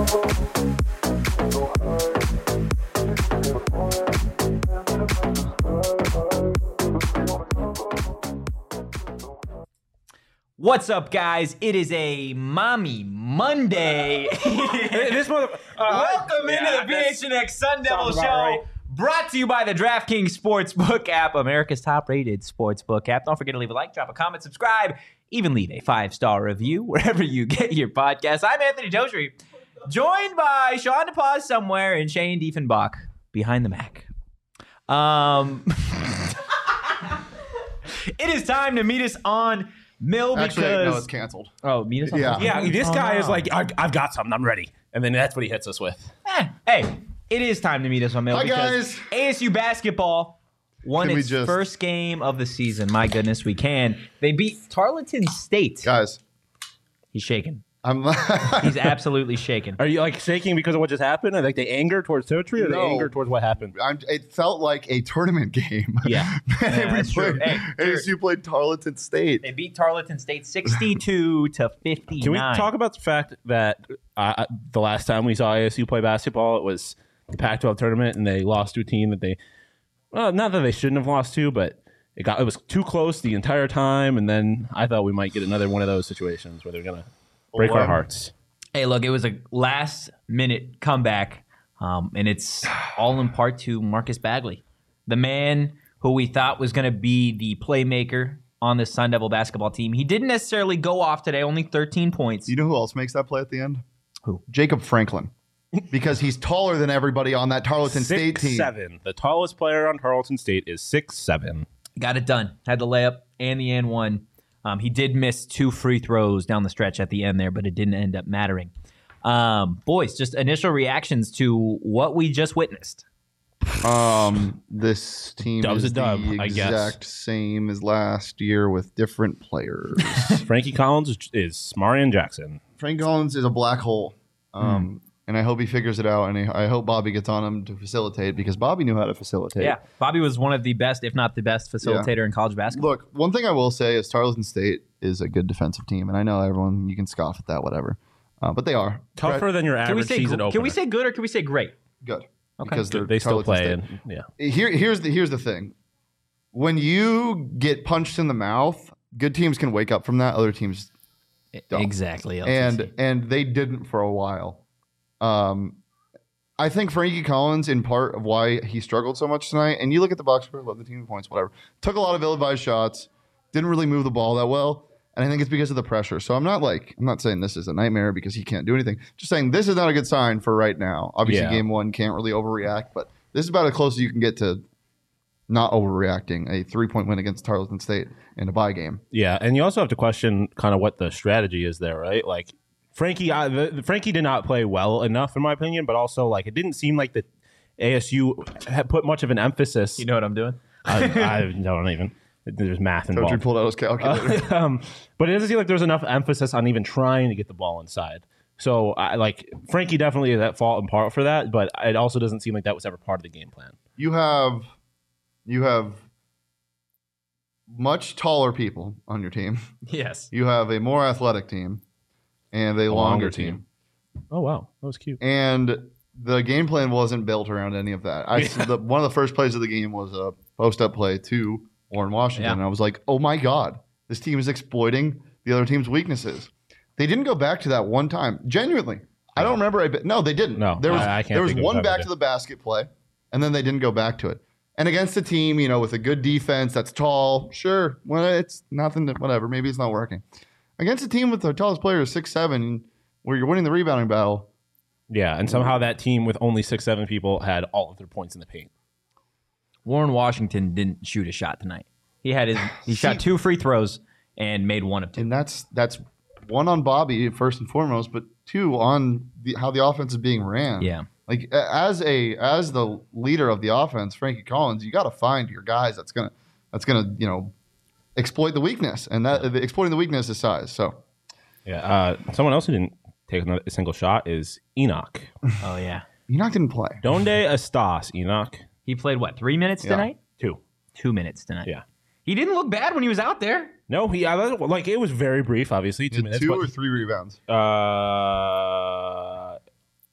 What's up, guys? It is a Mommy Monday. Welcome into the PHNX Sun Devil Show, right. Brought to you by the DraftKings Sportsbook app, America's top-rated sportsbook app. Don't forget to leave a like, drop a comment, subscribe, even leave a 5-star review wherever you get your podcasts. I'm Anthony Totri, joined by Sean DePaz somewhere and Shane Diefenbach behind the Mac. It is time to meet us on Mill because... Actually, no, it's canceled. Oh, meet us on Mill? Yeah, this guy is like, I've got something, I'm ready. And then that's what he hits us with. Hey, it is time to meet us on Mill. Hi, because guys. ASU basketball won its first game of the season. My goodness, we can. They beat Tarleton State. Guys. He's shaking. I'm He's absolutely shaking. Are you like shaking because of what just happened? Or like the anger towards Totri or the anger towards what happened? It felt like a tournament game. Yeah. That's true. Hey, ASU played Tarleton State. They beat Tarleton State 62-59. Can we talk about the fact that the last time we saw ASU play basketball, it was the Pac-12 tournament, and they lost to a team that they, well, not that they shouldn't have lost to, but it was too close the entire time, and then I thought we might get another one of those situations where they're going to break our hearts. Hey, look, it was a last-minute comeback, and it's all in part to Marcus Bagley, the man who we thought was going to be the playmaker on this Sun Devil basketball team. He didn't necessarily go off today, only 13 points. You know who else makes that play at the end? Who? Jacob Franklin. Because he's taller than everybody on that Tarleton State team. 6'7". The tallest player on Tarleton State is 6'7". Got it done. Had the layup and the and one. He did miss 2 free throws down the stretch at the end there, but it didn't end up mattering. Boys, just initial reactions to what we just witnessed. This team Dub's is a dub, the I guess. exact same as last year with different players. Frankie Collins is Marion Jackson. Frank Collins is a black hole. And I hope he figures it out, and I hope Bobby gets on him to facilitate, because Bobby knew how to facilitate. Yeah, Bobby was one of the best, if not the best, facilitator in college basketball. Look, one thing I will say is Tarleton State is a good defensive team, and I know everyone, you can scoff at that, whatever. But they are. Tougher than your average season opener. Can we say good or can we say great? Good. Okay. Because they still play. And, yeah. Here's the thing. When you get punched in the mouth, good teams can wake up from that. Other teams don't. Exactly. And they didn't for a while. I think Frankie Collins, in part of why he struggled so much tonight, and you look at the box score, love the team points, whatever, took a lot of ill-advised shots, didn't really move the ball that well, and I think it's because of the pressure. So I'm not saying this is a nightmare because he can't do anything. Just saying this is not a good sign for right now. Obviously, Game 1 can't really overreact, but this is about as close as you can get to not overreacting. A 3-point win against Tarleton State in a bye game. Yeah, and you also have to question kind of what the strategy is there, right? Like, Frankie did not play well enough, in my opinion, but also like it didn't seem like the ASU had put much of an emphasis. You know what I'm doing? I don't even. There's math involved. Totri pulled out his calculator. But it doesn't seem like there's enough emphasis on even trying to get the ball inside. So Frankie definitely is at fault in part for that, but it also doesn't seem like that was ever part of the game plan. You have much taller people on your team. Yes. You have a more athletic team. And a longer team. Oh, wow. That was cute. And the game plan wasn't built around any of that. One of the first plays of the game was a post-up play to Warren Washington. Yeah. And I was like, oh, my God. This team is exploiting the other team's weaknesses. They didn't go back to that one time. Genuinely. I don't remember. No, they didn't. No, there was one back to the basket play, and then they didn't go back to it. And against a team, with a good defense that's tall, sure. Well, it's nothing. Whatever. Maybe it's not working. Against a team with the tallest player is 6'7", where you're winning the rebounding battle. Yeah, and somehow that team with only 6'7" people had all of their points in the paint. Warren Washington didn't shoot a shot tonight. He shot 2 free throws and made 1 of 2. And that's one on Bobby first and foremost, but 2 on how the offense is being ran. Yeah. Like as the leader of the offense, Frankie Collins, you got to find your guys that's gonna exploit the weakness, and exploiting the weakness is size. So, someone else who didn't take a single shot is Enoch. Oh yeah, Enoch didn't play. Donde estás, Enoch? He played 3 minutes tonight? 2. 2 minutes tonight. Yeah, he didn't look bad when he was out there. No, it was very brief. Obviously, 2 minutes. 2 or 3 rebounds.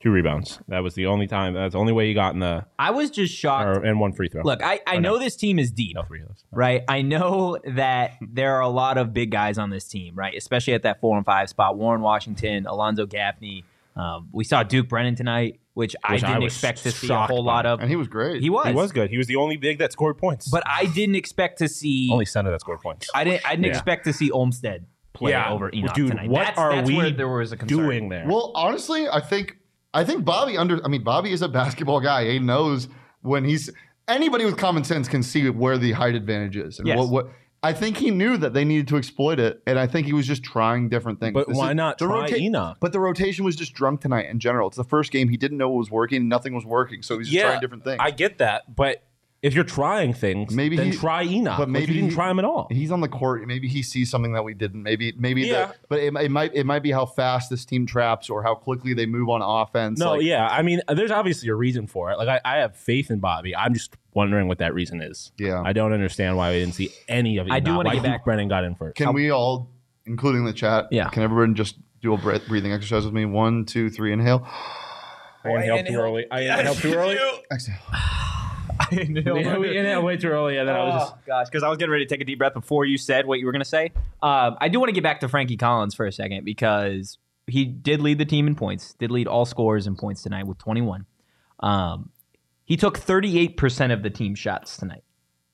2 rebounds. That was the only time. That's the only way he got in the. I was just shocked. And 1 free throw. Look, I know this team is deep. No 3 of those. Right? I know that there are a lot of big guys on this team, right? Especially at that 4 and 5 spot. Warren Washington, Alonzo Gaffney. We saw Duke Brennan tonight, which I didn't expect to see a whole lot of. And he was great. He was good. He was the only big that scored points. But I didn't expect to see. Only center that scored points. I didn't expect to see Olmstead play over Enoch dude, tonight. What That's where there was a concern. doing there? Well, honestly, I think Bobby Bobby is a basketball guy. He knows when anybody with common sense can see where the height advantage is. And what I think he knew that they needed to exploit it, and I think he was just trying different things. But why not try Enoch? But the rotation was just drunk tonight in general. It's the first game. He didn't know what was working. Nothing was working, so he's just trying different things. I get that, but if you're trying things, then try Enoch. But maybe you didn't try him at all. He's on the court. Maybe he sees something that we didn't. Maybe. But it might be how fast this team traps or how quickly they move on offense. No, I mean, there's obviously a reason for it. Like I have faith in Bobby. I'm just wondering what that reason is. Yeah, I don't understand why we didn't see any of it. I do want to get back. Duke Brennan got in first. Can we all, including the chat? Yeah. Can everyone just do a breathing exercise with me? 1, 2, 3, inhale. I inhaled too early. Exhale. We inhaled way too early, and then I was just gosh, because I was getting ready to take a deep breath before you said what you were going to say. I do want to get back to Frankie Collins for a second because he did lead the team in points, did lead all scorers in points tonight with 21. He took 38% of the team shots tonight.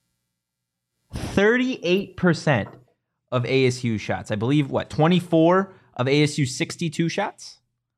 38% of ASU shots. I believe, 24 of ASU 62 shots?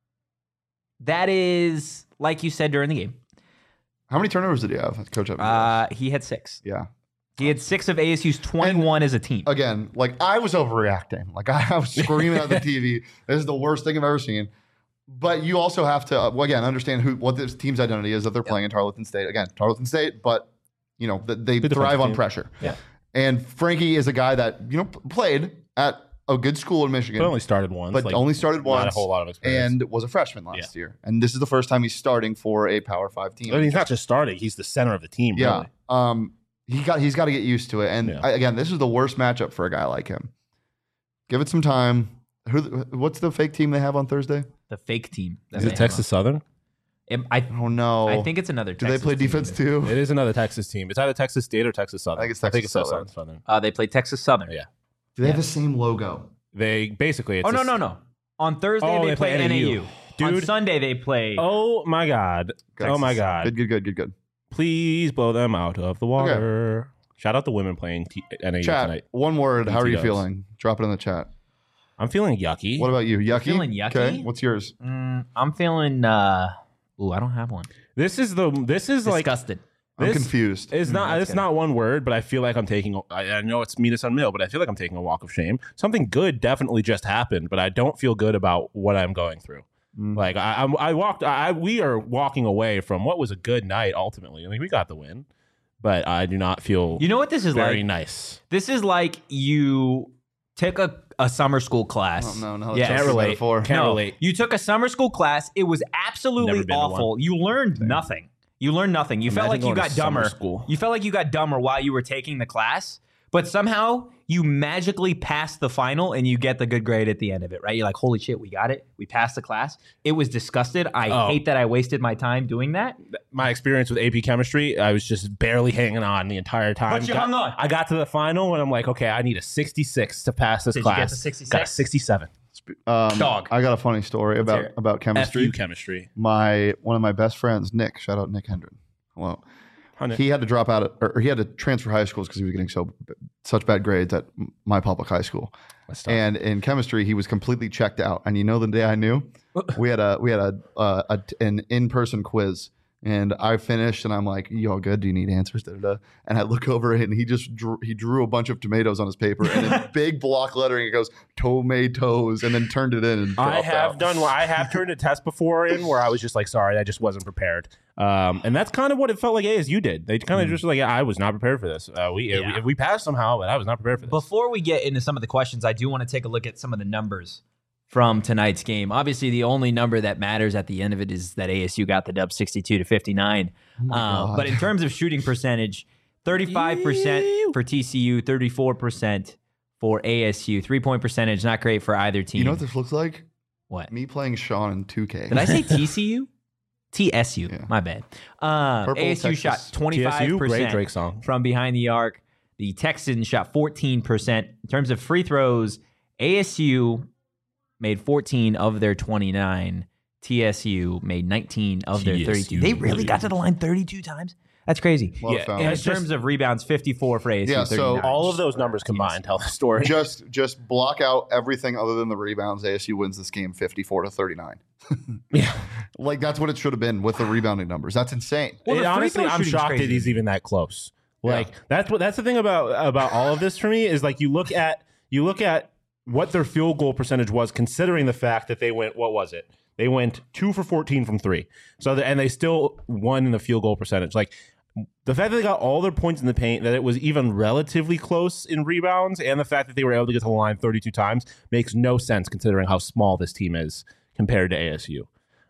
That is, like you said during the game. How many turnovers did he have, Coach Evans? He had 6. Yeah. He had 6 of ASU's 21 as a team. Again, I was overreacting. I was screaming at the TV. This is the worst thing I've ever seen. But you also have to, again, understand what this team's identity is that they're playing in Tarleton State. Again, Tarleton State, but, they thrive on pressure. Yeah. And Frankie is a guy that, played at a good school in Michigan. But only started once. Not a whole lot of experience. And was a freshman last year. And this is the first time he's starting for a Power 5 team. I mean, he's not just starting. He's the center of the team, yeah. really. He's got to get used to it. And again, this is the worst matchup for a guy like him. Give it some time. What's the fake team they have on Thursday? The fake team. Is it Texas Southern? Oh, no. I think it's another Texas Do they play defense too? It is another Texas team. It's either Texas State or Texas Southern. I think it's Texas Southern. They play Texas Southern. Yeah. Do they have the same logo? They basically. It's no. On Thursday they play NAU. Dude. On Sunday they play. Oh my God. Texas. Oh my God. Good. Please blow them out of the water. Okay. Shout out the women playing NAU chat, tonight. One word. How are you feeling? Drop it in the chat. I'm feeling yucky. What about you? Yucky? Feeling yucky? Okay. What's yours? I'm feeling. I don't have one. This is disgusted. I'm confused. It's not one word, but I feel like I'm taking. I know it's mean as unmill, but I feel like I'm taking a walk of shame. Something good definitely just happened, but I don't feel good about what I'm going through. Like we are walking away from what was a good night. Ultimately, we got the win, but I do not feel. You know what this is very like? Nice. This is like you took a summer school class. Oh, no. Yeah, can't relate. Can't relate. You took a summer school class. It was absolutely awful. You learned nothing. You felt like you got dumber. You felt like you got dumber while you were taking the class, but somehow you magically passed the final and you get the good grade at the end of it, right? You're like, holy shit, we got it. We passed the class. It was disgusted. I hate that I wasted my time doing that. My experience with AP chemistry, I was just barely hanging on the entire time. But you hung on. I got to the final and I'm like, okay, I need a 66 to pass this class. Did you get to 66? Got a 67. Dog. I got a funny story about chemistry. FU chemistry. One of my best friends, Nick, shout out Nick Hendren. Hello. He had to drop out, or he had to transfer high schools because he was getting such bad grades at my public high school. And in chemistry, he was completely checked out. And the day I knew, we had an in-person quiz. And I finished, and I'm like, "You all good? Do you need answers?" Da-da-da. And I look over, and he just drew a bunch of tomatoes on his paper, and in big block lettering, it goes "tomatoes," and then turned it in. And I have turned a test before in where I was just like, "Sorry, I just wasn't prepared." And that's kind of what it felt like ASU did. They kind of just like, I was not prepared for this. We passed somehow, but I was not prepared for this. Before we get into some of the questions, I do want to take a look at some of the numbers from tonight's game. Obviously, the only number that matters at the end of it is that ASU got the dub 62-59. But in terms of shooting percentage, 35% for TCU, 34% for ASU. 3-point percentage, not great for either team. You know what this looks like? What? Me playing Sean in 2K. Did I say TCU? TSU. Yeah. My bad. Purple ASU Texas. shot 25% great Drake song. from behind the arc. The Texans shot 14%. In terms of free throws, ASU made 14 of their 29. TSU made 19 of their 32. They really got to the line 32 times? That's crazy. Yeah, And in terms of rebounds, 54 for ASU. Yeah, so 39. All of those numbers combined tell the story. Just block out everything other than the rebounds. ASU wins this game 54-39. Yeah. Like that's what it should have been with the rebounding numbers. That's insane. Well, the free Honestly, throw I'm shooting's shocked crazy. that he's even that close. Like Yeah. that's the thing about all of this for me is like you look at what their field goal percentage was, considering the fact that they went, what was it? They went 2 for 14 from 3. So and they still won in the field goal percentage. Like the fact that they got all their points in the paint, that it was even relatively close in rebounds, and the fact that they were able to get to the line 32 times makes no sense considering how small this team is compared to ASU.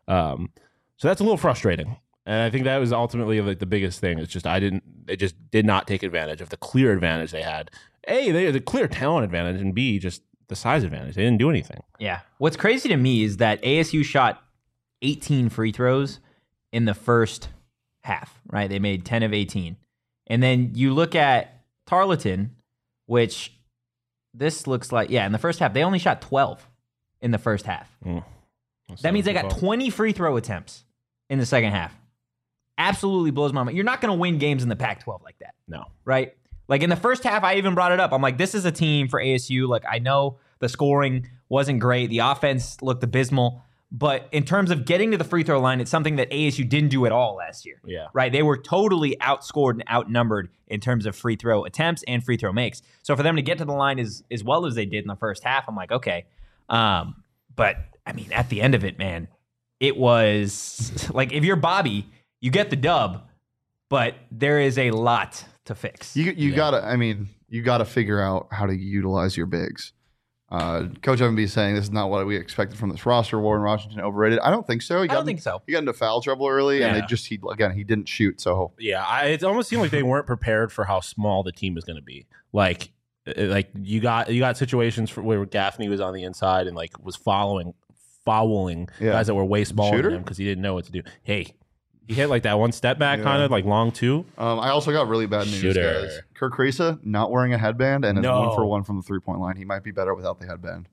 So that's a little frustrating. And I think that was ultimately like the biggest thing. It's just they just did not take advantage of the clear advantage they had. A, they had the clear talent advantage, and B, just the size advantage. They didn't do anything. Yeah. What's crazy to me is that ASU shot 18 free throws in the first half, right? They made 10 of 18. And then you look at Tarleton, which this looks like, in the first half, they only shot 12 in the first half. That means they got 20 free throw attempts in the second half. Absolutely blows my mind. You're not going to win games in the Pac-12 like that. No. Right? Like in the first half, I even brought it up. I'm like, this is a team for ASU. Like, I know the scoring wasn't great. The offense looked abysmal. But in terms of getting to the free throw line, it's something that ASU didn't do at all last year. Yeah. Right? They were totally outscored and outnumbered in terms of free throw attempts and free throw makes. So for them to get to the line as well as they did in the first half, I'm like, okay. But, I mean, at the end of it, man, it was like if you're Bobby, you get the dub, but there is a lot to fix. You gotta figure out how to utilize your bigs. Coach Evan B is saying this is not what we expected from this roster. Warren Washington overrated. I don't think so. I don't think so. He got into foul trouble early, and he didn't shoot. So Yeah, it almost seemed like they weren't prepared for how small the team was going to be. Like you got situations where Gaffney was on the inside and like was fouling guys that were way smaller than him because he didn't know what to do. Hey, he hit like that one step back kind of like long two. I also got really bad news, guys. Kirk Kriisa not wearing a headband and is 1 for 1 from the 3-point line. He might be better without the headband.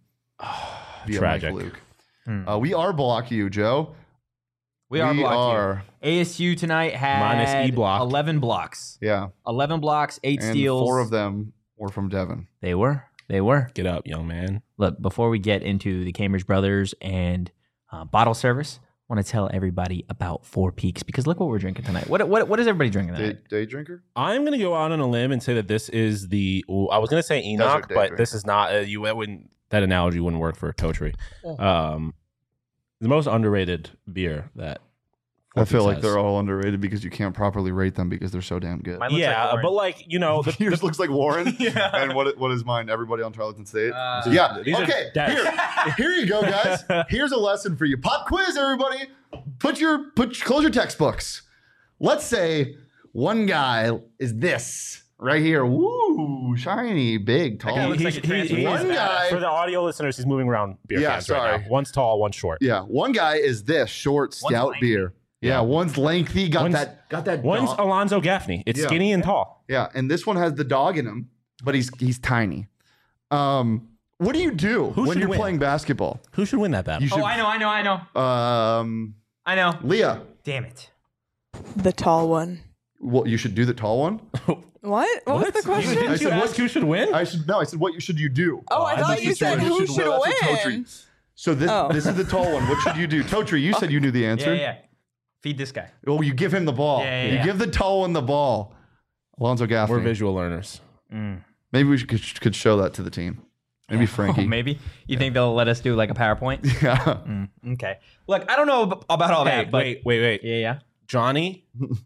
Tragic. Luke. We are block you, Joe. We are. ASU tonight had Minus E block. 11 blocks. Yeah. 11 blocks, 8 And steals. 4 of them were from Devin. They were. Get up, young man. Look, before we get into the Cambridge Brothers and bottle service, I want to tell everybody about Four Peaks because look what we're drinking tonight. What is everybody drinking tonight? Day drinker? I'm going to go out on a limb and say that this is I was going to say Enoch, but this is not. That analogy wouldn't work for Totri. The most underrated beer that I feel like they're all underrated because you can't properly rate them because they're so damn good. But like Yours looks like Warren. Yeah. And what is mine? Everybody on Tarleton State. these are Okay. dead. Here you go, guys. Here's a lesson for you. Pop quiz, everybody. Close your textbooks. Let's say one guy is this right here. Woo, shiny, big, tall. guy looks like a transformer. One guy. For the audio listeners, he's moving around beer cans sorry. right now. One's tall, one's short. Yeah, one guy is this short, stout lengthy. beer. Yeah, one's lengthy. Got that. One's dog. Alonzo Gaffney. It's skinny and tall. Yeah, and this one has the dog in him, but he's tiny. What do you do when you're playing basketball? Who should win that battle? I know. I know. Leah. Damn it. The tall one. Well, you should do the tall one. What? What was the question? Didn't you ask who should win? I said what should you do? Oh, I thought you said who should win. So this is the tall one. What should you do? Totri, you said you knew the answer. Yeah. Feed this guy. Oh, you give him the ball. Yeah. You give the tall one the ball. Alonzo Gaffney. We're visual learners. Maybe we could show that to the team. Maybe Frankie. Oh, maybe. You think they'll let us do like a PowerPoint? Yeah. Okay. Look, I don't know about all that, but Wait. Yeah. Johnny,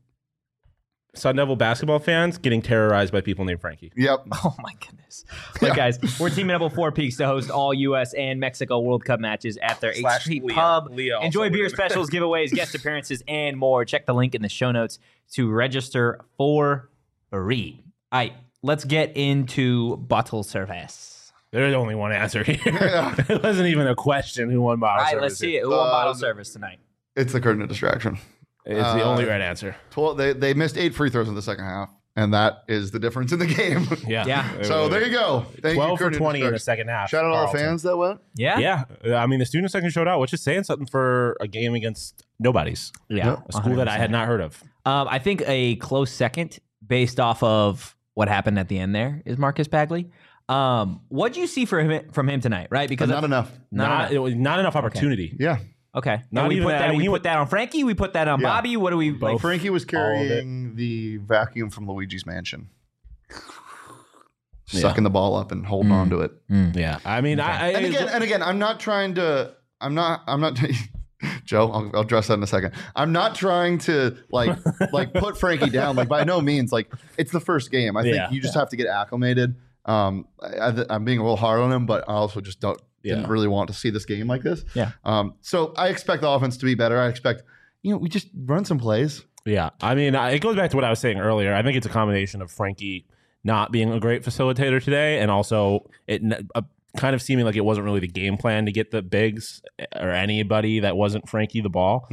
Sun Devil basketball fans getting terrorized by people named Frankie. Yep. Oh my goodness. Look, guys, we're teaming up with Four Peaks to host all U.S. and Mexico World Cup matches at their 8th Street Pub. Enjoy beer specials, giveaways, guest appearances, and more. Check the link in the show notes to register for free. All right, let's get into bottle service. There's only one answer here. It wasn't even a question who won bottle All right, service. let's see it. Who won bottle service tonight? It's the curtain of distraction. It's the only right answer. 12, they missed 8 free throws in the second half, and that is the difference in the game. Yeah. So there you go. Thank 12 you, for curtain of 20 in the distraction. second half. Shout out all the Carlton. fans that went. Yeah. Yeah. I mean, the student section showed out, which is saying something for a game against nobodies. Yeah. A school that I had not heard of. I think a close second, based off of what happened at the end there, is Marcus Bagley. What do you see from him tonight? Right, because Not enough. It was not enough opportunity. Yeah. Okay, Not and we even put that. that. I mean, We he put that on Frankie. We put that on Yeah. Bobby. What do we like? Frankie was all of carrying the vacuum from Luigi's mansion. Sucking the ball up and holding on to it. Yeah. I mean, And again, I'm not trying to. I'm not. Joe, I'll address that in a second. I'm not trying to like put Frankie down. Like by no means. Like it's the first game. I think you just have to get acclimated. I'm being a little hard on him, but I also just didn't really want to see this game like this. Yeah. So I expect the offense to be better. I expect we just run some plays. Yeah, I mean, it goes back to what I was saying earlier. I think it's a combination of Frankie not being a great facilitator today, and also it kind of seeming like it wasn't really the game plan to get the bigs or anybody that wasn't Frankie the ball.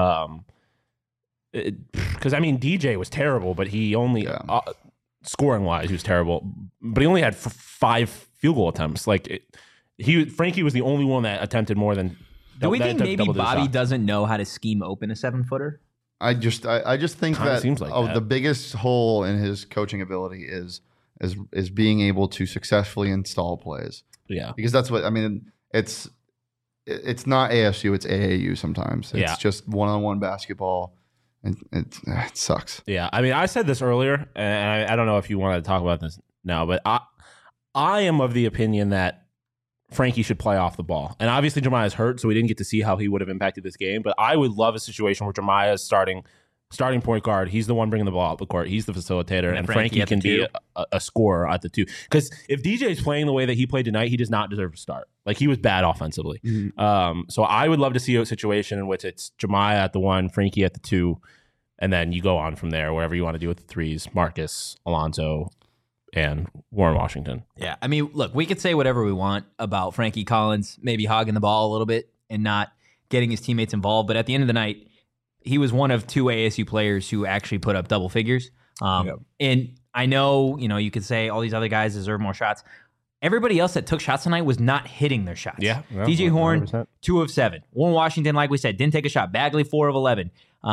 Because I mean, DJ was terrible, but he only scoring wise, he was terrible. But he only had 5 field goal attempts. Like Frankie was the only one that attempted more than. Do we think maybe Bobby doesn't know how to scheme open a 7-footer? I just think Kinda that, seems like that. the biggest hole in his coaching ability is being able to successfully install plays. Yeah, Because that's what I mean. It's not ASU, it's AAU sometimes. It's just one-on-one basketball, and it sucks. yeah. I mean, I said this earlier, and I don't know if you want to talk about this now, but I am of the opinion that Frankie should play off the ball. And obviously Jemiah is hurt, so we didn't get to see how he would have impacted this game. But I would love a situation where Jemiah is starting point guard. He's the one bringing the ball up the court. He's the facilitator. And Frankie can be a scorer at the 2. Because if DJ is playing the way that he played tonight, he does not deserve to start. Like, he was bad offensively. So I would love to see a situation in which it's Jemiah at the 1, Frankie at the 2, and then you go on from there, wherever you want to do with the 3s, Marcus, Alonzo, and Warren Washington. Yeah, I mean, look, we could say whatever we want about Frankie Collins maybe hogging the ball a little bit and not getting his teammates involved, but at the end of the night, he was one of 2 ASU players who actually put up double figures. And I know, you could say all these other guys deserve more shots. Everybody else that took shots tonight was not hitting their shots. Yeah, DJ Horn, 100%. 2 of 7. Warren Washington, like we said, didn't take a shot. Bagley, 4 of 11.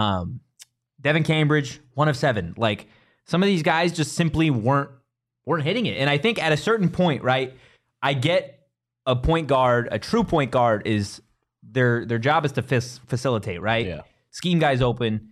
Devin Cambridge, 1 of 7. Like, some of these guys just simply weren't hitting it. And I think at a certain point, right, I get a point guard, a true point guard is their job is to facilitate, right? Yeah. Scheme guys open,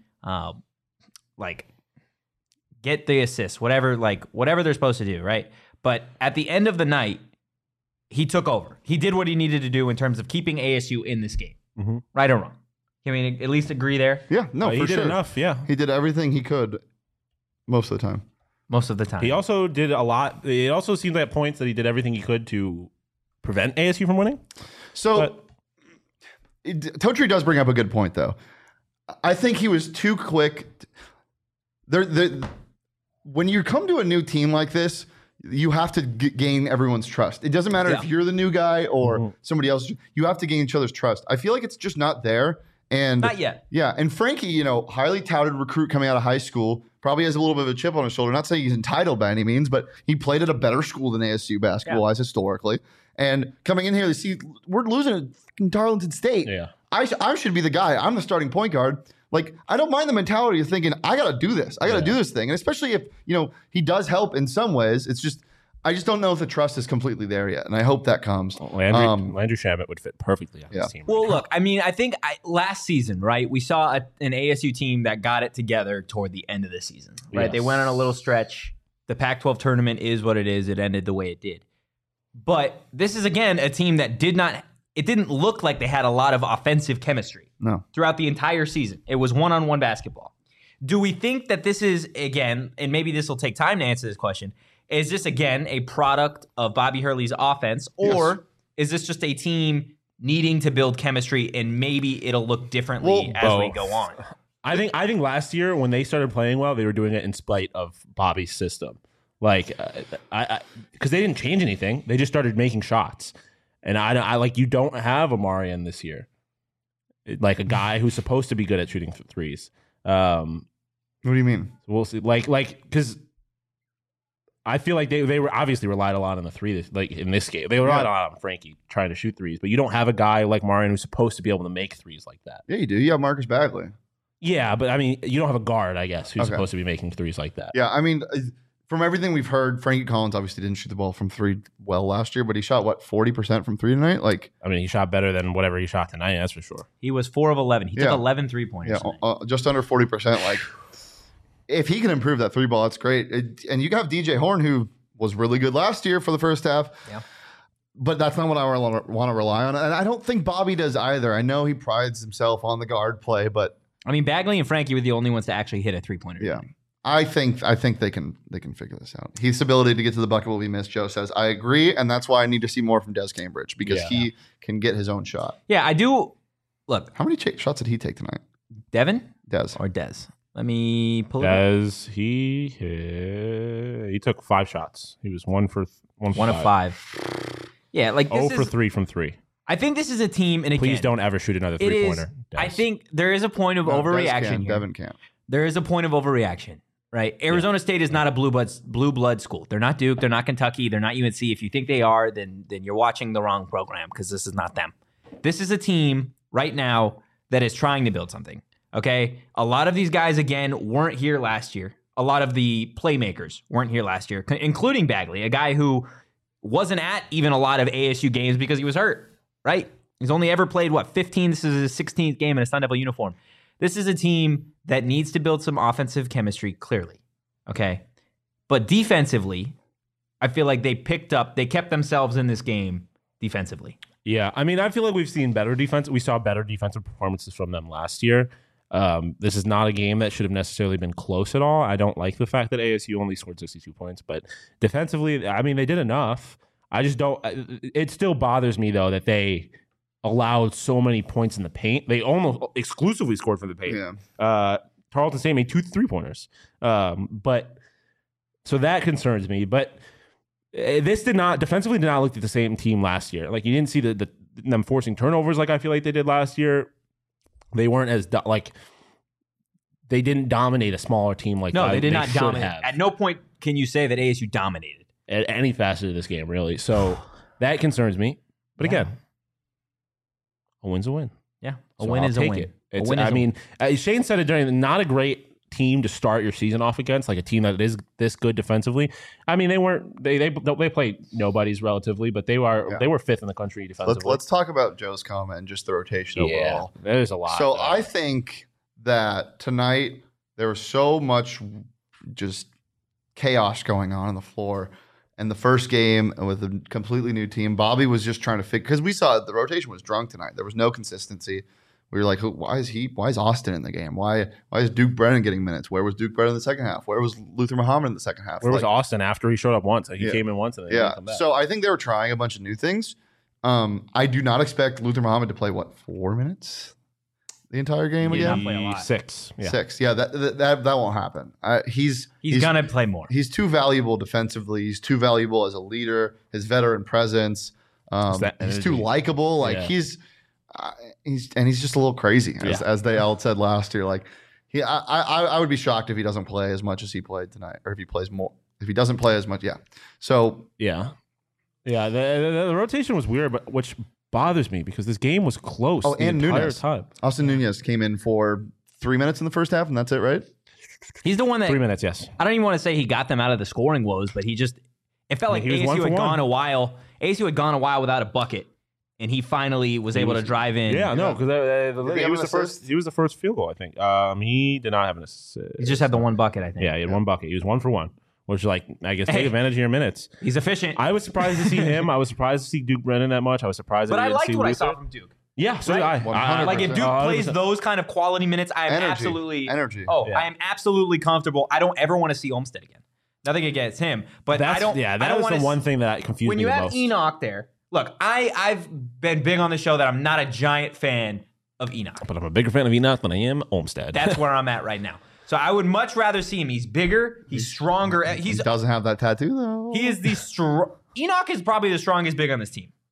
like get the assist, whatever they're supposed to do, right? But at the end of the night, he took over. He did what he needed to do in terms of keeping ASU in this game. Right or wrong? Can we at least agree there? Yeah, no, He for did sure. enough, yeah. He did everything he could most of the time. Most of the time. He also did a lot. It also seemed at points that he did everything he could to prevent ASU from winning. So, Totri does bring up a good point, though. I think he was too quick. When you come to a new team like this, you have to gain everyone's trust. It doesn't matter if you're the new guy or somebody else. You have to gain each other's trust. I feel like it's just not there. And Not yet. Yeah, and Frankie, highly touted recruit coming out of high school, probably has a little bit of a chip on his shoulder. Not saying he's entitled by any means, but he played at a better school than ASU basketball-wise historically. And coming in here, they see we're losing at Darlington State. Yeah. I should be the guy. I'm the starting point guard. Like, I don't mind the mentality of thinking, I got to do this. I got to do this thing. And especially if, he does help in some ways. It's just, I just don't know if the trust is completely there yet. And I hope that comes. Landry Shamet would fit perfectly on this team. Well, look, I mean, I think last season, right, we saw an ASU team that got it together toward the end of the season, right? Yes. They went on a little stretch. The Pac-12 tournament is what it is. It ended the way it did. But this is, again, a team that didn't look like they had a lot of offensive chemistry throughout the entire season. It was one-on-one basketball. Do we think that this is, again, and maybe this will take time to answer this question, is this, again, a product of Bobby Hurley's offense, or is this just a team needing to build chemistry and maybe it'll look differently as we go on? I think last year when they started playing well, they were doing it in spite of Bobby's system. Like, because they didn't change anything. They just started making shots. And I you don't have Amarian this year. like a guy who's supposed to be good at shooting threes. What do you mean? We'll see. Like because I feel like they were obviously relied a lot on the three. Like in this game, they relied a lot on Frankie trying to shoot threes, but you don't have a guy like Martin who's supposed to be able to make threes like that. Yeah, you do. You have Marcus Bagley. Yeah, but I mean, you don't have a guard, I guess, who's supposed to be making threes like that. Yeah, I mean, from everything we've heard, Frankie Collins obviously didn't shoot the ball from three well last year, but he shot, 40% from three tonight? Like, I mean, he shot better than whatever he shot tonight, that's for sure. He was 4 of 11. He took 11 3-pointers. Yeah, just under 40%. Like, if he can improve that three ball, that's great. And you have DJ Horn, who was really good last year for the first half. Yeah. But that's not what I want to rely on. And I don't think Bobby does either. I know he prides himself on the guard play, but I mean, Bagley and Frankie were the only ones to actually hit a 3-pointer. Yeah. I think they can figure this out. Heath's ability to get to the bucket will be missed, Joe says. I agree, and that's why I need to see more from Des Cambridge, because he can get his own shot. Yeah, I do. Look. How many shots did he take tonight? Devin? Des. Or Des? Let me pull it up. Des, he took 5 shots. He was 1 of 5. Yeah, like this 0 for 3 from 3. I think this is a team, and again, please don't ever shoot another 3-pointer. I think there is a point of overreaction here. Devin can't. There is a point of overreaction, right? Arizona State is not a blue blood school. They're not Duke. They're not Kentucky. They're not UNC. If you think they are, then you're watching the wrong program, because this is not them. This is a team right now that is trying to build something, okay? A lot of these guys, again, weren't here last year. A lot of the playmakers weren't here last year, including Bagley, a guy who wasn't at even a lot of ASU games because he was hurt. Right? He's only ever played, 15? This is his 16th game in a Sun Devil uniform. This is a team that needs to build some offensive chemistry, clearly. Okay? But defensively, I feel like they kept themselves in this game defensively. Yeah, I mean, I feel like we've seen better defense. We saw better defensive performances from them last year. This is not a game that should have necessarily been close at all. I don't like the fact that ASU only scored 62 points, but defensively, I mean, they did enough. I just don't. It still bothers me, though, that they allowed so many points in the paint. They almost exclusively scored from the paint. Yeah. Tarleton State made 2 3-pointers. But so that concerns me. But this defensively did not look like the same team last year. Like, you didn't see them forcing turnovers like I feel like they did last year. They weren't as they didn't dominate a smaller team like no, they did not dominate. Have. At no point can you say that ASU dominated at any facet of this game, really. So that concerns me. But again, a win's a win. Yeah, a win is a win. Shane said it during not a great team to start your season off against, like a team that is this good defensively. I mean, they played nobodies relatively, but they were 5th in the country defensively. Let's talk about Joe's comment and just the rotation overall. There's a lot. So I think that tonight there was so much just chaos going on the floor. And the first game with a completely new team, Bobby was just trying to figure, because we saw the rotation was drunk tonight. There was no consistency. We were like, why is Austin in the game? Why is Duke Brennan getting minutes? Where was Duke Brennan in the second half? Where was Luther Muhammad in the second half? Where was Austin after he showed up once? He came in once and then he didn't come back. So I think they were trying a bunch of new things. I do not expect Luther Muhammad to play 4 minutes the entire game again. Play a lot. 6. Yeah. 6. Yeah, that won't happen. He's gonna play more. He's too valuable defensively. He's too valuable as a leader. His veteran presence. He's too likable. Like he's just a little crazy, as they all said last year. Like I would be shocked if he doesn't play as much as he played tonight, or if he plays more. If he doesn't play as much, So the rotation was weird, but which bothers me because this game was close. Oh, and entire Nunez. Time. Austin Nunez came in for 3 minutes in the first half, and that's it, right? He's the one that 3 minutes. Yes. I don't even want to say he got them out of the scoring woes, but it felt like ASU had gone a while. ASU had gone a while without a bucket, and he finally was able to drive in. Yeah, no, because he was the first. He was the first field goal, I think. He did not have an assist. He just had the one bucket, I think. Yeah, he had one bucket. He was 1 for 1. Which, I guess, take advantage of your minutes. He's efficient. I was surprised to see him. I was surprised to see Duke Brennan that much. I was surprised that I liked what I saw from Duke. Yeah, so did I. Like, if Duke plays those kind of quality minutes, I am absolutely... Energy. Oh, yeah. I am absolutely comfortable. I don't ever want to see Olmstead again. Nothing against him. But that was the one thing that confused me the most. When you have Enoch there... Look, I've been big on the show that I'm not a giant fan of Enoch. But I'm a bigger fan of Enoch than I am Olmstead. That's where I'm at right now. So I would much rather see him. He's bigger. He's stronger. He doesn't have that tattoo, though. He is Enoch is probably the strongest big on this team.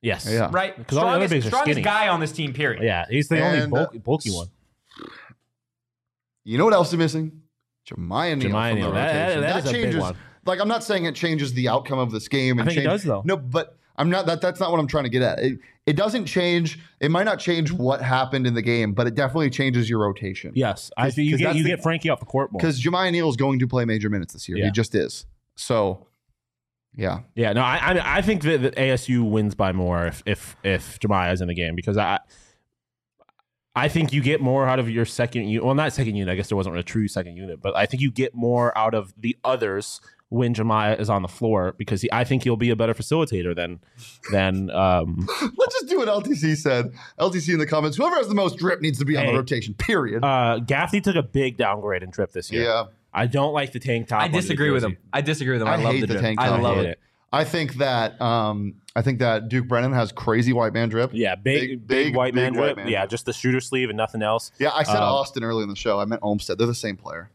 Yes. Yeah. right? Because all the other bigs are Strongest skinny. guy on this team, period. Yeah, he's the And, only bulky one. You know what else is missing? Jemiah Neal Jemiah from the Neal. That rotation. is a big changes. one. Like, I'm not saying it changes the outcome of this game. I think it does, though. No, but I'm not. That's not what I'm trying to get at. It doesn't change. It might not change what happened in the game, but it definitely changes your rotation. Yes, I think you get Frankie off the court more. Because Jemiah Neal is going to play major minutes this year. Yeah. He just is. So, yeah. Yeah, no, I think that ASU wins by more if Jemiah is in the game because I think you get more out of your second unit. Well, not second unit. I guess there wasn't a true second unit, but I think you get more out of the others when Jemiah is on the floor because I think he'll be a better facilitator than. Let's just do what LTC said. LTC in the comments. Whoever has the most drip needs to be on the rotation. Period. Gaffney took a big downgrade in drip this year. Yeah. I don't like the tank top. I disagree with him. I love hate the the drip. tank I top. love hate it. it. I think that Duke Brennan has crazy white man drip. Yeah, big white man drip. Yeah, just the shooter sleeve and nothing else. Yeah, I said Austin early in the show. I meant Olmstead. They're the same player.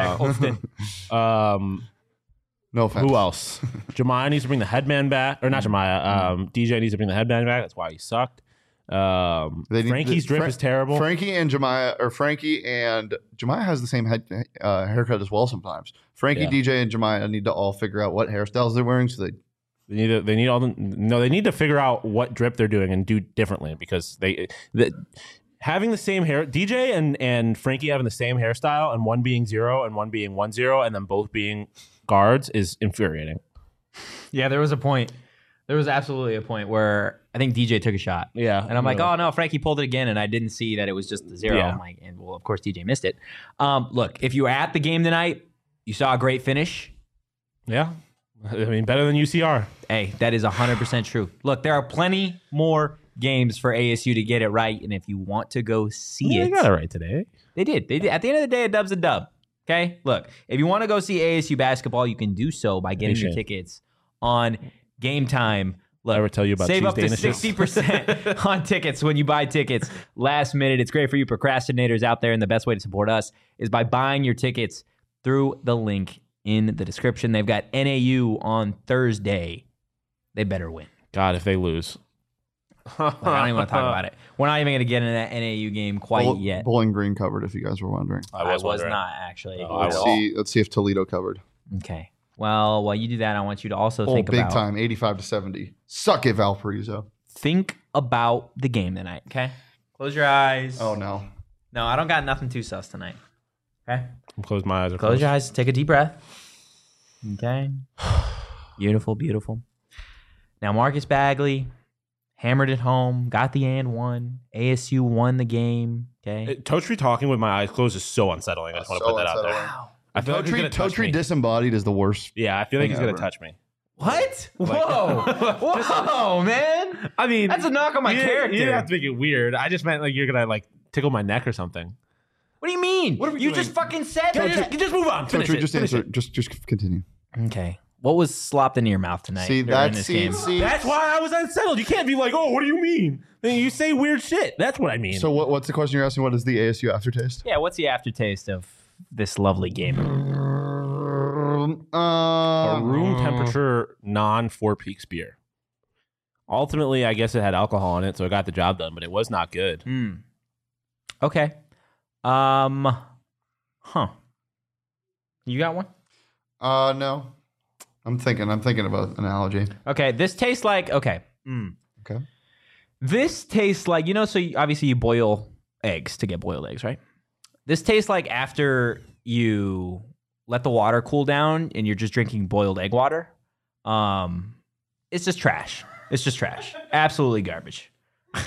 No offense. Who else? Jemiah needs to bring the headband back, or not Jemiah. DJ needs to bring the headband back. That's why he sucked. Frankie's drip is terrible. Frankie and Jemiah has the same haircut as well sometimes. Frankie, DJ, and Jemiah need to all figure out what hairstyles they're wearing so they need to figure out what drip they're doing and do differently because having the same hair, DJ and Frankie having the same hairstyle and one being 0 and one being 1-0 and then both being guards is infuriating. Yeah, there was a point. There was absolutely a point where I think DJ took a shot. Yeah. And I'm like, oh, no, Frankie pulled it again, and I didn't see that it was just the 0. Yeah. I'm like, and well, of course, DJ missed it. Look, if you were at the game tonight, you saw a great finish. Yeah. I mean, better than UCR. Hey, that is 100% true. Look, there are plenty more games for ASU to get it right, and if you want to go see it. They got it right today. They did. At the end of the day, a dub's a dub. Okay? Look, if you want to go see ASU basketball, you can do so by getting your tickets on Game Time. Look, I ever tell you about save up to Tuesday 60% on tickets when you buy tickets last minute. It's great for you procrastinators out there, and the best way to support us is by buying your tickets through the link in the description. They've got NAU on Thursday. They better win. God, if they lose. Like, I don't even want to talk about it. We're not even going to get into that NAU game quite yet. Bowling Green covered, if you guys were wondering. I was not, actually. Let's see if Toledo covered. Okay. Well, while you do that, I want you to also think big about... time, 85-70. Suck it, Valparaiso. Think about the game tonight, okay? Close your eyes. Oh, no. No, I don't got nothing too sus tonight. Okay? Close my eyes. Close your eyes. Take a deep breath. Okay? Beautiful, beautiful. Now, Marcus Bagley hammered it home, got the and one. ASU won the game, okay? Totri talking with my eyes closed is so unsettling. I just want to put that out there. Wow. I feel like he's going to touch me. Totri disembodied is the worst. Yeah, I feel like he's going ever. to touch me. What? Whoa. Whoa, man. I mean, That's a knock on my character. You didn't have to make it weird. I just meant like you're going to like tickle my neck or something. What do you mean? What are we you doing? just fucking said that. Just move on. Finish Totri, it. just Finish answer. it. Just continue. Okay. What was slopped into your mouth tonight See, during this game? That's why I was unsettled. You can't be like, oh, what do you mean? Then you say weird shit. That's what I mean. So what's the question you're asking? What is the ASU aftertaste? Yeah, what's the aftertaste of this lovely game? A room temperature non-Four Peaks beer. Ultimately, I guess it had alcohol in it, so it got the job done, but it was not good. Okay. You got one? No. I'm thinking of an analogy. Okay, this tastes like Okay. This tastes like, so obviously you boil eggs to get boiled eggs, right? This tastes like after you let the water cool down and you're just drinking boiled egg water. It's just trash. It's just trash. Absolutely garbage. Is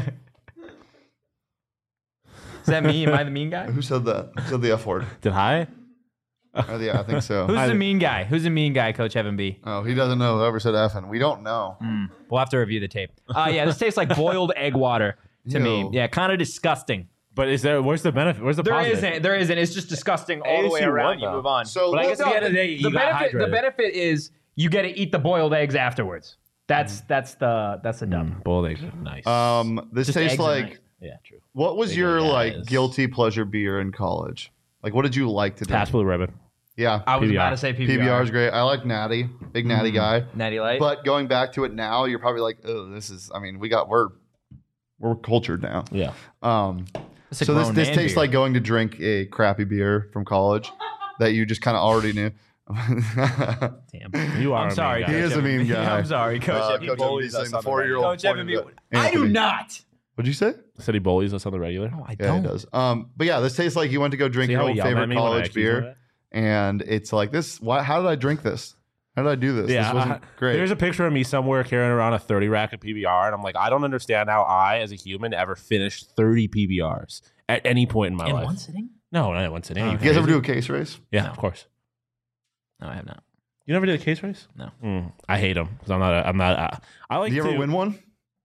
that me? Am I the mean guy? Who said that? Who said the F word? Did I? Yeah, I think so. Who's the mean guy? Who's the mean guy, Coach Evan B? Oh, he doesn't know whoever said effing. We don't know. We'll have to review the tape. Yeah, this tastes like boiled egg water to me. Ew. Yeah, kind of disgusting. But where's the benefit? Where's the positive? There isn't. It's just disgusting all the way ASU around. won, You though. move on. So But I guess at the end of the day, you got hydrated. The benefit is you get to eat the boiled eggs afterwards. That's the dub. Boiled eggs are nice. This Just tastes eggs are like. nice. Yeah, true. What was Big your guys. guilty pleasure beer in college? Like, what did you like to do? Pabst Blue Ribbon. Yeah. I was PBR. about to say PBR. PBR is great. I like Natty. Big Natty guy. Natty Light. But going back to it now, you're probably like, oh, this is. I mean, we're cultured now. Yeah. It's a So this grown this man tastes beer. like going to drink a crappy beer from college that you just kind of already knew. Damn. You are. I'm sorry. A mean He guy. is a mean guy. I'm sorry, Coach. He Coach bullies MB us saying on the the 4-year-old. Coach pointed FMB. at I do Anthony. not. What'd you say? Said he bullies us on the regular. No, I Yeah, don't. he does. But yeah, this tastes like you went to go drink See your how he old yelled at favorite me when I college accused him of beer, and it's like this. How did I drink this? How did I do this? Yeah, This wasn't great. There's a picture of me somewhere carrying around a 30 rack of PBR, and I'm like, I don't understand how I, as a human, ever finished 30 PBRs at any point in my In life. one sitting? No, not in one sitting. Oh, You you guys ever crazy? do a case race? Yeah, No. of course. No, I have not. You never did a case race? No. I hate them because I'm not. I like. Did you to, ever win one?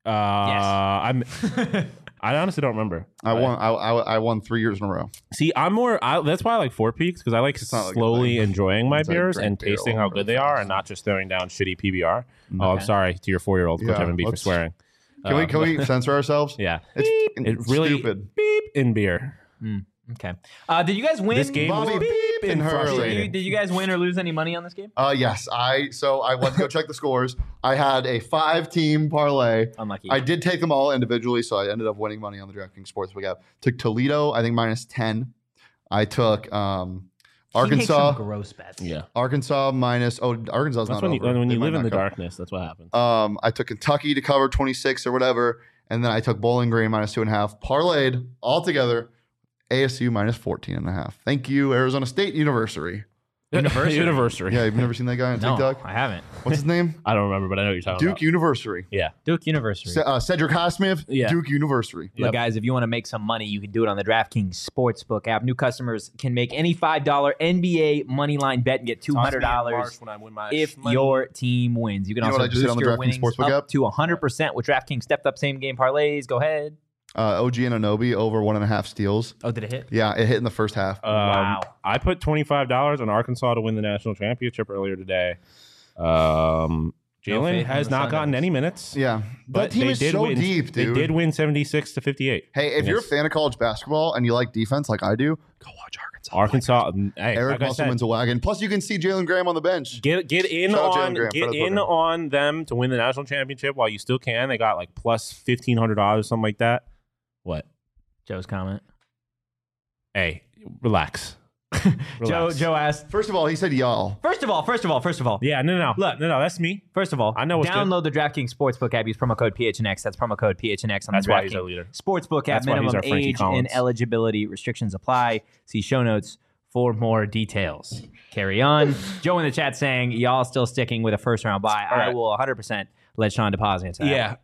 I honestly don't remember. I won. I won 3 years in a row. See, I'm more. That's why I like Four Peaks because I like not like a slowly thing. enjoying my It's like beers drink and beer tasting all how over good they fast. are, and not just throwing down shitty PBR. Oh, I'm Okay. sorry to your 4-year-old Coach Yeah, M&B for let's- swearing. Can we censor ourselves? Yeah, It's it really stupid. beep in beer. Okay. Did you guys win? This game was Bobby beep beep and in Hurley. frustrating. Did you guys win or lose any money on this game? Yes. I went to go check the scores. I had a 5-team parlay. Unlucky. I did take them all individually, so I ended up winning money on the DraftKings Sportsbook app. Took Toledo, I think -10. I took He makes Arkansas. some gross bets. Yeah, Arkansas minus. Oh, Arkansas's that's not when over. when They you might live in not the cover. darkness. That's what happens. I took Kentucky to cover 26 or whatever, and then I took Bowling Green -2.5. Parlayed all together. ASU -14.5. Thank you, Arizona State University. University. Yeah, you've never seen that guy on No, TikTok? I haven't. What's his name? I don't remember, but I know what you're talking Duke about. University. Yeah. Duke University. Cedric Highsmith, Yeah. Duke University. Look, Yep. guys, if you want to make some money, you can do it on the DraftKings Sportsbook app. New customers can make any $5 NBA money line bet and get $200 when I win my if money. your team wins. You can You know also what I just did boost on the your DraftKings winnings Sportsbook up app? to 100% with DraftKings stepped up same game parlays. Go ahead. OG and Anobi over 1.5 steals. Oh, did it hit? Yeah, it hit in the first half. Wow. I put $25 on Arkansas to win the national championship earlier today. faith Jalen in has the not Sun gotten Devils. any minutes. Yeah, but that team they is did so win, deep, dude. They did win 76-58. Hey, if you're a Yes. fan of college basketball and you like defense like I do, go watch Arkansas. Arkansas, hey, Eric like I Musselman's said, a wagon. Plus, you can see Jalen Graham on the bench. get in Shout out Jalen on Graham, get Fred in Booker. on them to win the national championship while you still can. They got like plus $1,500, something like that. What? Joe's comment. Hey, relax. Relax. Joe asked. First of all, he said y'all. First of all. Yeah, no. Look. no, that's me. First of all, I know what's good. download the DraftKings Sportsbook app. Use promo code PHNX. That's promo code PHNX on That's the why he's our DraftKings leader. Sportsbook app. That's why he's Minimum our Frankie age Collins. and eligibility restrictions apply. See show notes for more details. Carry on. Joe in the chat saying, y'all still sticking with a first round bye. I right. will 100% let Sean deposit into that. Yeah.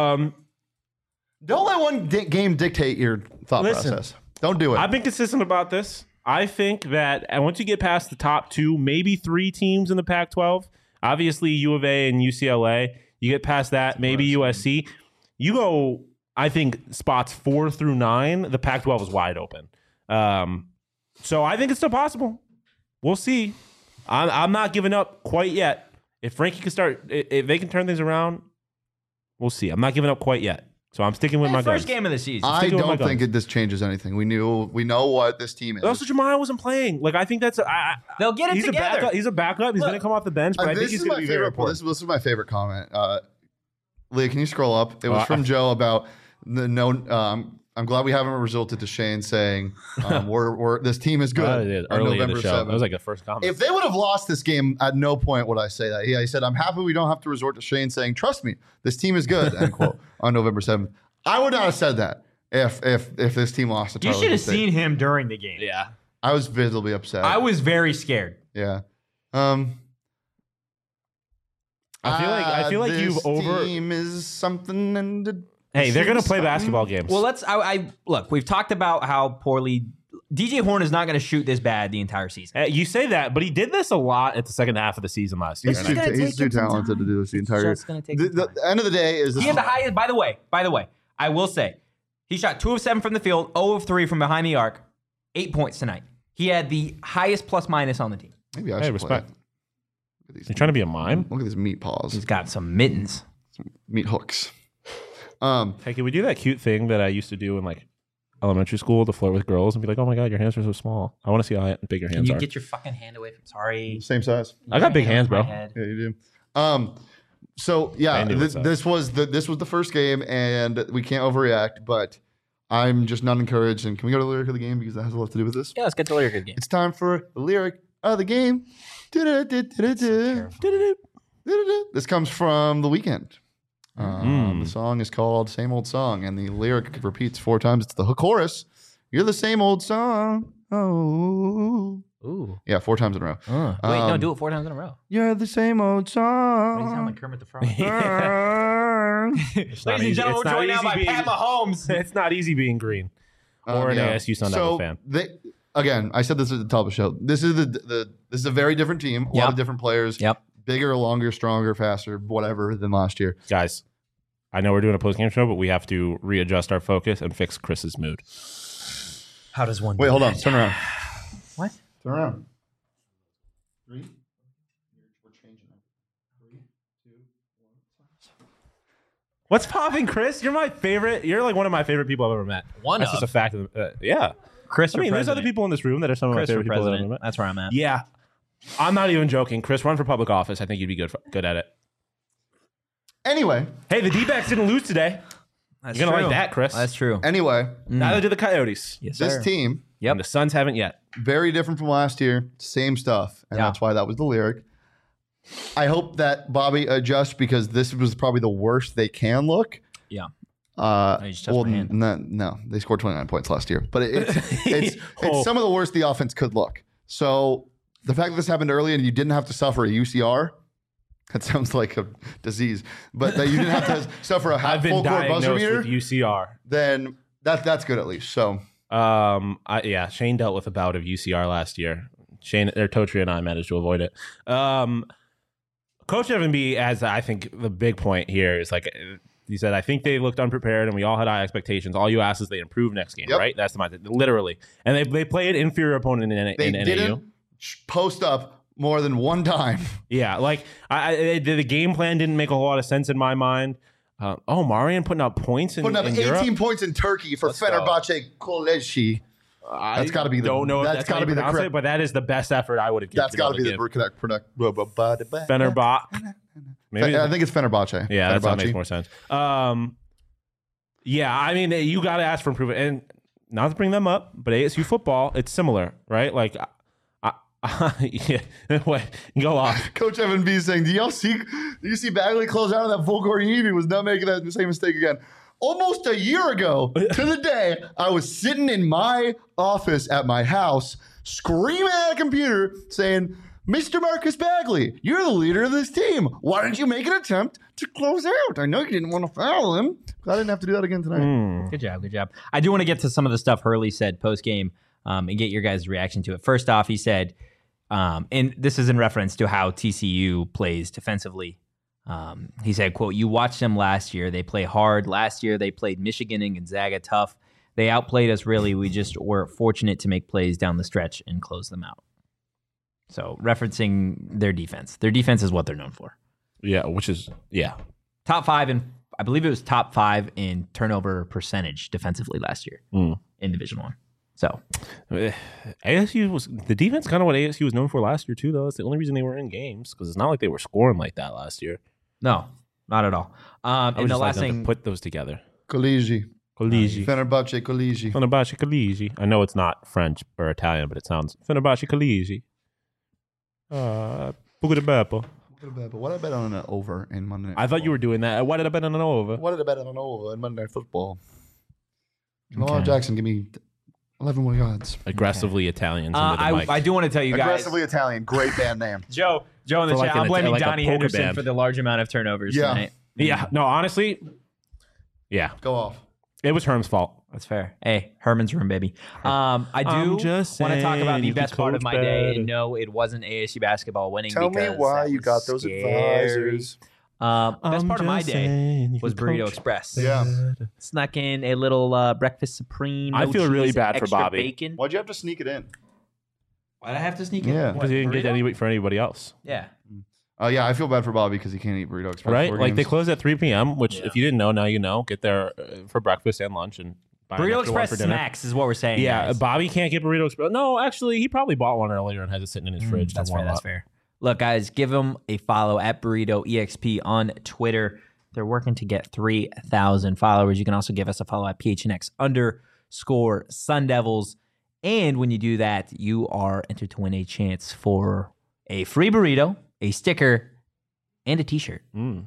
Don't let one game dictate your thought Listen, process. Don't do it. I've been consistent about this. I think that and once you get past the top 2, maybe 3 teams in the Pac-12, obviously U of A and UCLA, you get past that, maybe USC. You go, I think, spots 4 through 9, the Pac-12 is wide open. So I think it's still possible. We'll see. I'm not giving up quite yet. If Frankie can start, if they can turn things around, we'll see. I'm not giving up quite yet. So I'm sticking with my First guns. game of the season. I sticking with my don't think guns. this changes anything. We know what this team is. But also, Jemiah wasn't playing. Like I think that's They'll get it he's together. A backup. He's a backup. He's Look, going to come off the bench, but I think this he's is going my to be very favorite. important. This is my favorite comment. Leah, can you scroll up? It was from Joe about the no. I'm glad we haven't resulted to Shane saying we're this team is good. I did on early in November the show. 7th. That was like the first comment. If they would have lost this game, at no point would I say that. He said, I'm happy we don't have to resort to Shane saying, trust me, this team is good, end quote, on November 7th. I would not have said that if this team lost to You Tarleton should have State. seen him during the game. yeah. I was visibly upset. I was very scared. Yeah. I feel like you've over. team is something and Hey, they're going to play basketball games. Well, I look. We've talked about how poorly DJ Horn is not going to shoot this bad the entire season. You say that, but he did this a lot at the second half of the season last year. He's It's gonna too take him some talented to time. do this the It's entire. just gonna take The, some the time. end of the day is this. He had the highest. By the way, I will say, he shot 2 of 7 from the field, 0 of 3 from behind the arc, 8 points tonight. He had the highest plus minus on the team. Maybe I Hey, should respect. play. Look at these You're trying to be a mime? Look at these meat paws, He's got some mittens. meat hooks. Hey, can we do that cute thing that I used to do in like elementary school to flirt with girls and be like, "Oh my god, your hands are so small. I want to see how big your Can hands you are." get your fucking hand away from? Sorry. Same size. I got big hands, bro. Yeah, you do. So yeah, this was the first game, and we can't overreact, but I'm just not encouraged. And can we go to the lyric of the game because that has a lot to do with this? Yeah, let's get to the lyric of the game. It's time for the lyric of the game. This comes from The Weeknd. The song is called "Same Old Song," and the lyric repeats 4 times. It's the hook chorus. You're the same old song. Oh. Ooh. Yeah, 4 times in a row. Wait, no, do it 4 times in a row. You're the same old song. You sound like Kermit the Frog. Ladies Ladies and gentlemen, we're joined now by Pat Mahomes. It's not easy being green or an ASU Sun Devil fan. Again, I said this at the top of the show. This is this is a very different team. A lot of different players. Yep. Bigger, longer, stronger, faster, whatever than last year. Guys, I know we're doing a post-game show, but we have to readjust our focus and fix Chris's mood. How does one? Wait, hold on. Turn around. What? Turn around. 3. We're changing it. 3, 2, 1. What's popping, Chris? You're my favorite. You're like one of my favorite people I've ever met. That's just a fact. Yeah. Chris, I mean, there's other people in this room that are some of my favorite people that I've ever met. That's where I'm at. Yeah. I'm not even joking. Chris, run for public office. I think you'd be good at it. Anyway. Hey, the D-backs didn't lose today. You're going to like that, Chris. That's true. Anyway. Neither did the Coyotes. Yes, this sir. team. Yep. And the Suns haven't yet. Very different from last year. Same stuff. And that's why that was the lyric. I hope that Bobby adjusts because this was probably the worst they can look. Yeah. No, they scored 29 points last year. But it's some of the worst the offense could look. So the fact that this happened early and you didn't have to suffer a UCR, that sounds like a disease, but that you didn't have to suffer a full court buzzer beater with UCR. Then that's good at least. So Shane dealt with a bout of UCR last year. Shane, Totri and I managed to avoid it. Coach Evan B, as I think the big point here is like he said, I think they looked unprepared and we all had high expectations. All you ask is they improve next game, right? That's the mindset, literally. And they played inferior opponent in NAU. Didn't post up more than one time. Yeah, like the game plan didn't make a whole lot of sense in my mind. Marian putting up points in Putting up 18 Europe? points in Turkey for Fenerbahce Koleji. That's got to be the. Don't know. That's got to be the correct. But that is the best effort I would have given. That's got to be the correct. Fenerbahce. Maybe I think it's Fenerbahce. Yeah, that makes more sense. Yeah, I mean, you got to ask for improvement, and not to bring them up, but ASU football, it's similar, right? Like, go off. Coach Evan B saying, "Do you see Bagley close out of that full court heave? He was not making that same mistake again." Almost a year ago to the day, I was sitting in my office at my house, screaming at a computer, saying, "Mr. Marcus Bagley, you're the leader of this team. Why didn't you make an attempt to close out? I know you didn't want to foul him. I didn't have to do that again tonight." Good job. I do want to get to some of the stuff Hurley said post-game and get your guys' reaction to it. First off, he said, and this is in reference to how TCU plays defensively. He said, quote, "You watched them last year. They play hard. Last year, they played Michigan and Gonzaga tough. They outplayed us, really. We just were fortunate to make plays down the stretch and close them out." So referencing their defense. Their defense is what they're known for. Yeah, which is, Top 5, and I believe it was top 5 in turnover percentage defensively last year in Division I. So ASU was the defense kind of what ASU was known for last year too, though. It's the only reason they were in games because it's not like they were scoring like that last year. No, not at all. And the last thing, to put those together. Koleji. Fenerbahce Koleji. I know it's not French or Italian, but it sounds Fenerbahce Koleji. What did I bet on an over in Monday Night I thought you were doing that. What did I bet on an over? What did I bet on an over in Monday Night Football? Jamal Jackson, give me 11 more yards. Aggressively Italians into the mic. I do want to tell you guys. Aggressively Italian. Great band name. Joe in the chat. I'm blaming Donnie Henderson for the large amount of turnovers tonight. Yeah. No, honestly, yeah. Go off. It was Herm's fault. That's fair. Hey, Herman's room, baby. I do want to talk about the best part of my day. And no, it wasn't ASU basketball winning. Tell me why you got those advisors. Best part of my day was Burrito Express. Yeah. Snuck in a little breakfast supreme. I feel really bad for Bobby. Bacon. Why'd you have to sneak it in? Why'd I have to sneak in? Yeah. Because he didn't get anybody for anybody else. Yeah. Yeah, I feel bad for Bobby because he can't eat Burrito Express. Right? Like they close at 3 p.m., which if you didn't know, now you know. Get there for breakfast and lunch and buy an Burrito extra one Express for dinner. snacks is what we're saying. Yeah, guys. Bobby can't get Burrito Express. No, actually, he probably bought one earlier and has it sitting in his fridge. That's to fair. warm That's up. fair. Look, guys, give them a follow at Burrito EXP on Twitter. They're working to get 3,000 followers. You can also give us a follow at PHNX_Sun Devils. And when you do that, you are entered to win a chance for a free burrito, a sticker, and a T-shirt. Mm.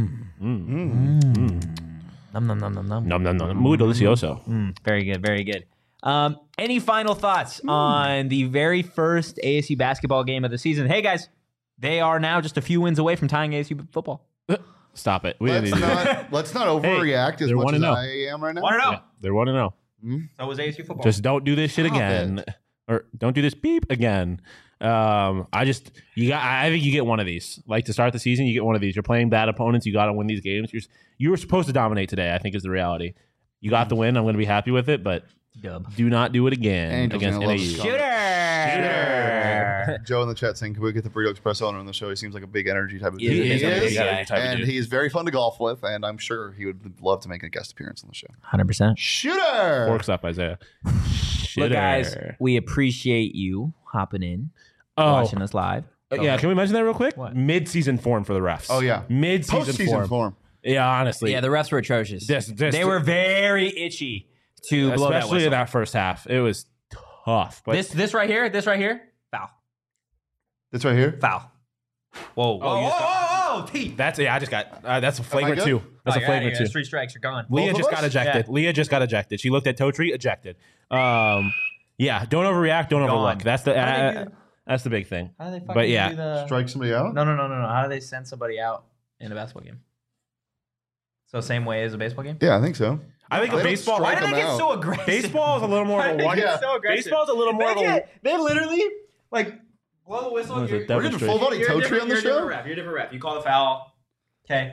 Nom nom nom nom nom. Nom nom nom. Muy delicioso. Very good, very good. Any final thoughts on the very first ASU basketball game of the season? Hey guys, they are now just a few wins away from tying ASU football. Stop it. Let's not overreact as they're much as 1-0. I am right now. 1-0. Yeah, they're 1-0. So was ASU football. Just don't do this shit Stop again, or don't do this beep again. I think you get one of these. Like to start the season, you get one of these. You're playing bad opponents. You got to win these games. You were supposed to dominate today. I think is the reality. You got the win. I'm going to be happy with it, but Dub. do not do it again Angels against gonna love NAU. this Shooter. Joe in the chat saying, "Can we get the Burrito Express owner on the show? He seems like a big energy type of dude. He is a big is, energy type of and dude. he is very fun to golf with, and I'm sure he would love to make a guest appearance on the show. 100%. Shooter! Forks up, Isaiah. Look, guys, we appreciate you hopping in, Oh, watching us live. yeah. Can we mention that real quick? What? Mid-season form for the refs. Oh, yeah. Mid-season Postseason form. Yeah, honestly. Yeah, the refs were atrocious. This- they were very itchy to blow that especially whistle. in that first half. It was tough. But This right here, foul. This right here? Foul. Whoa, whoa, you just whoa, T. that's I just got that's a flagrant good? two. That's a flagrant two. 3 strikes, you're gone. Leah Both of just us? got ejected. Yeah. Leah just got ejected. She looked at Totri, ejected. Yeah, don't overreact, don't overlook. That's the How do they do- that's the big thing. How do they fucking But yeah. do the... Strike somebody out? No. How do they send somebody out in a basketball game? So same way as a baseball game? Yeah, I think so. I think They a don't baseball strike Why do they them get out. so aggressive? baseball is a little more of a one. Yeah. so aggressive? Baseball is a little more of a They literally, like, blow the whistle. What is You're, it, Devil We're getting Street? full body you're a Totri different- on the you're a show? different ref. You're a different ref. You call the foul. Okay.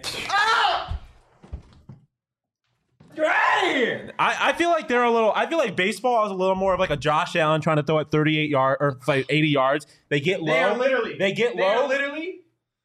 Get out of here! I feel like they're a little. I feel like baseball is a little more of like a Josh Allen trying to throw at 38 yards or like 80 yards. They get low. They are literally. They get They are low. literally.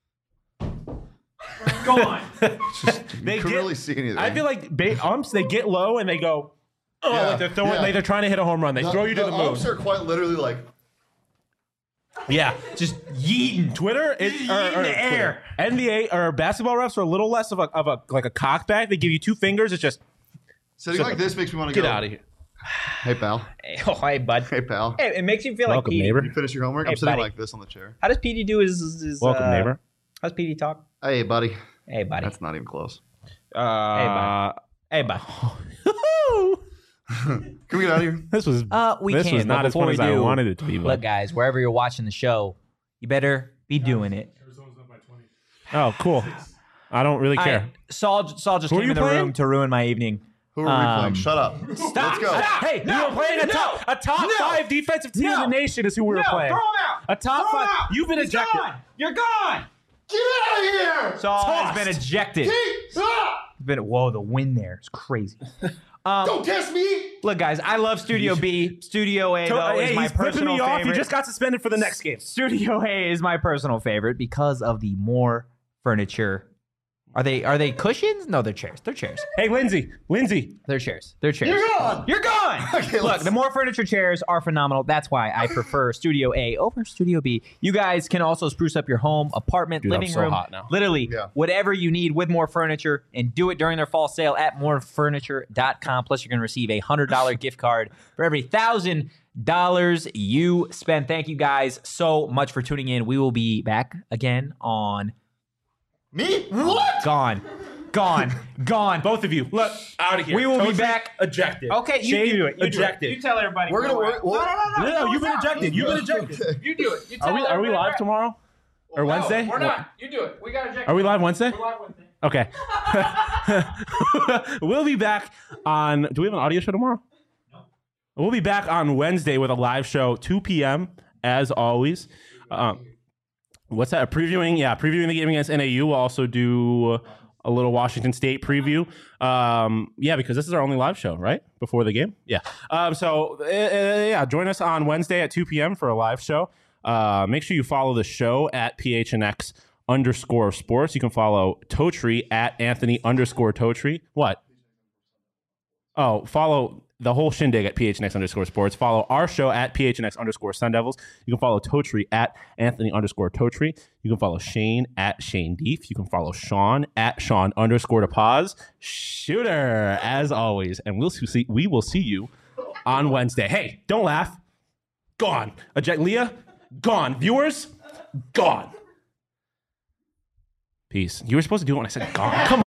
Go on. They You couldn't really see anything. I feel like umps. They get low and they go. Oh, Yeah, like they're throwing. yeah. Like they're trying to hit a home run. They throw you to the moon. umps are quite literally like, Yeah. Just yeeting. Twitter is Just yeet in the air. NBA or basketball refs are a little less of a like a cockback. They give you 2 fingers. It's just sitting like this makes me want to get go. out of here. Hey, pal. Oh, hey, bud. Hey, pal. Hey, it makes you feel Welcome, like Petey. neighbor. You finish your homework? Hey, I'm sitting buddy. like this on the chair. How does Petey do his Welcome, neighbor. How's Petey talk? Hey, buddy. Hey, buddy. That's not even close. bud. Hey, bud. Can we get out of here? This was We this can. was but not as before fun as we I do, wanted it to be. But. Look, guys, wherever you're watching the show, you better be doing it. Oh, cool. I don't really care. Saul just Who are came you in the playing? room to ruin my evening. Who are we playing? Shut up. Stop! Let's go. Stop! Hey, we were playing a top 5 defensive team in the nation is who we were playing. Throw him out! A top Throw him 5. out! You've been He's ejected. Gone. You're gone! Get out of here! Saul has Tossed. been ejected. Stop! Whoa, the win there is crazy. Don't test me! Look, guys, I love Studio B. Studio A, though, is Hey, my he's flipping personal me off. favorite. You just got suspended for the next game. Studio A is my personal favorite because of the more furniture. Are they cushions? No, they're chairs. They're chairs. Hey, Lindsay. They're chairs. They're chairs. You're gone! You're gone. Okay, Look, let's- the more furniture chairs are phenomenal. That's why I prefer Studio A over Studio B. You guys can also spruce up your home, apartment, Dude, I'm living so room, hot now. literally Yeah. whatever you need with More Furniture, and do it during their fall sale at morefurniture.com. Plus, you're going to receive a $100 gift card for every $1,000 you spend. Thank you guys so much for tuning in. We will be back again on Me? What? Gone. Both of you. Look, out of here. We will be Totri back. Ejected. Okay, you Shade, do it. You ejected. You tell everybody. We're gonna work. No, you've been ejected. You've been ejected. Okay. You do it. You tell Are we everybody live where- tomorrow? Or Wednesday? No, we're not. You do it. We got ejected. Are we live Wednesday? We're live Wednesday. Okay. We'll be back on. Do we have an audio show tomorrow? No. We'll be back on Wednesday with a live show, 2 p.m. as always. What's that? Previewing the game against NAU. We'll also do a little Washington State preview. Because this is our only live show, right? Before the game. Yeah. Join us on Wednesday at 2 p.m. for a live show. Make sure you follow the show at PHNX_sports. You can follow Totri at Anthony_Totri. What? Oh, follow the whole shindig at PHNX_sports. Follow our show at PHNX_Sun Devils. You can follow Totri at Anthony_Totri. You can follow Shane at Shane Deef. You can follow Sean at Sean_DePaz. Shooter, as always. And we will see you on Wednesday. Hey, don't laugh. Gone. Leah, gone. Viewers, gone. Peace. You were supposed to do it when I said gone. Come on.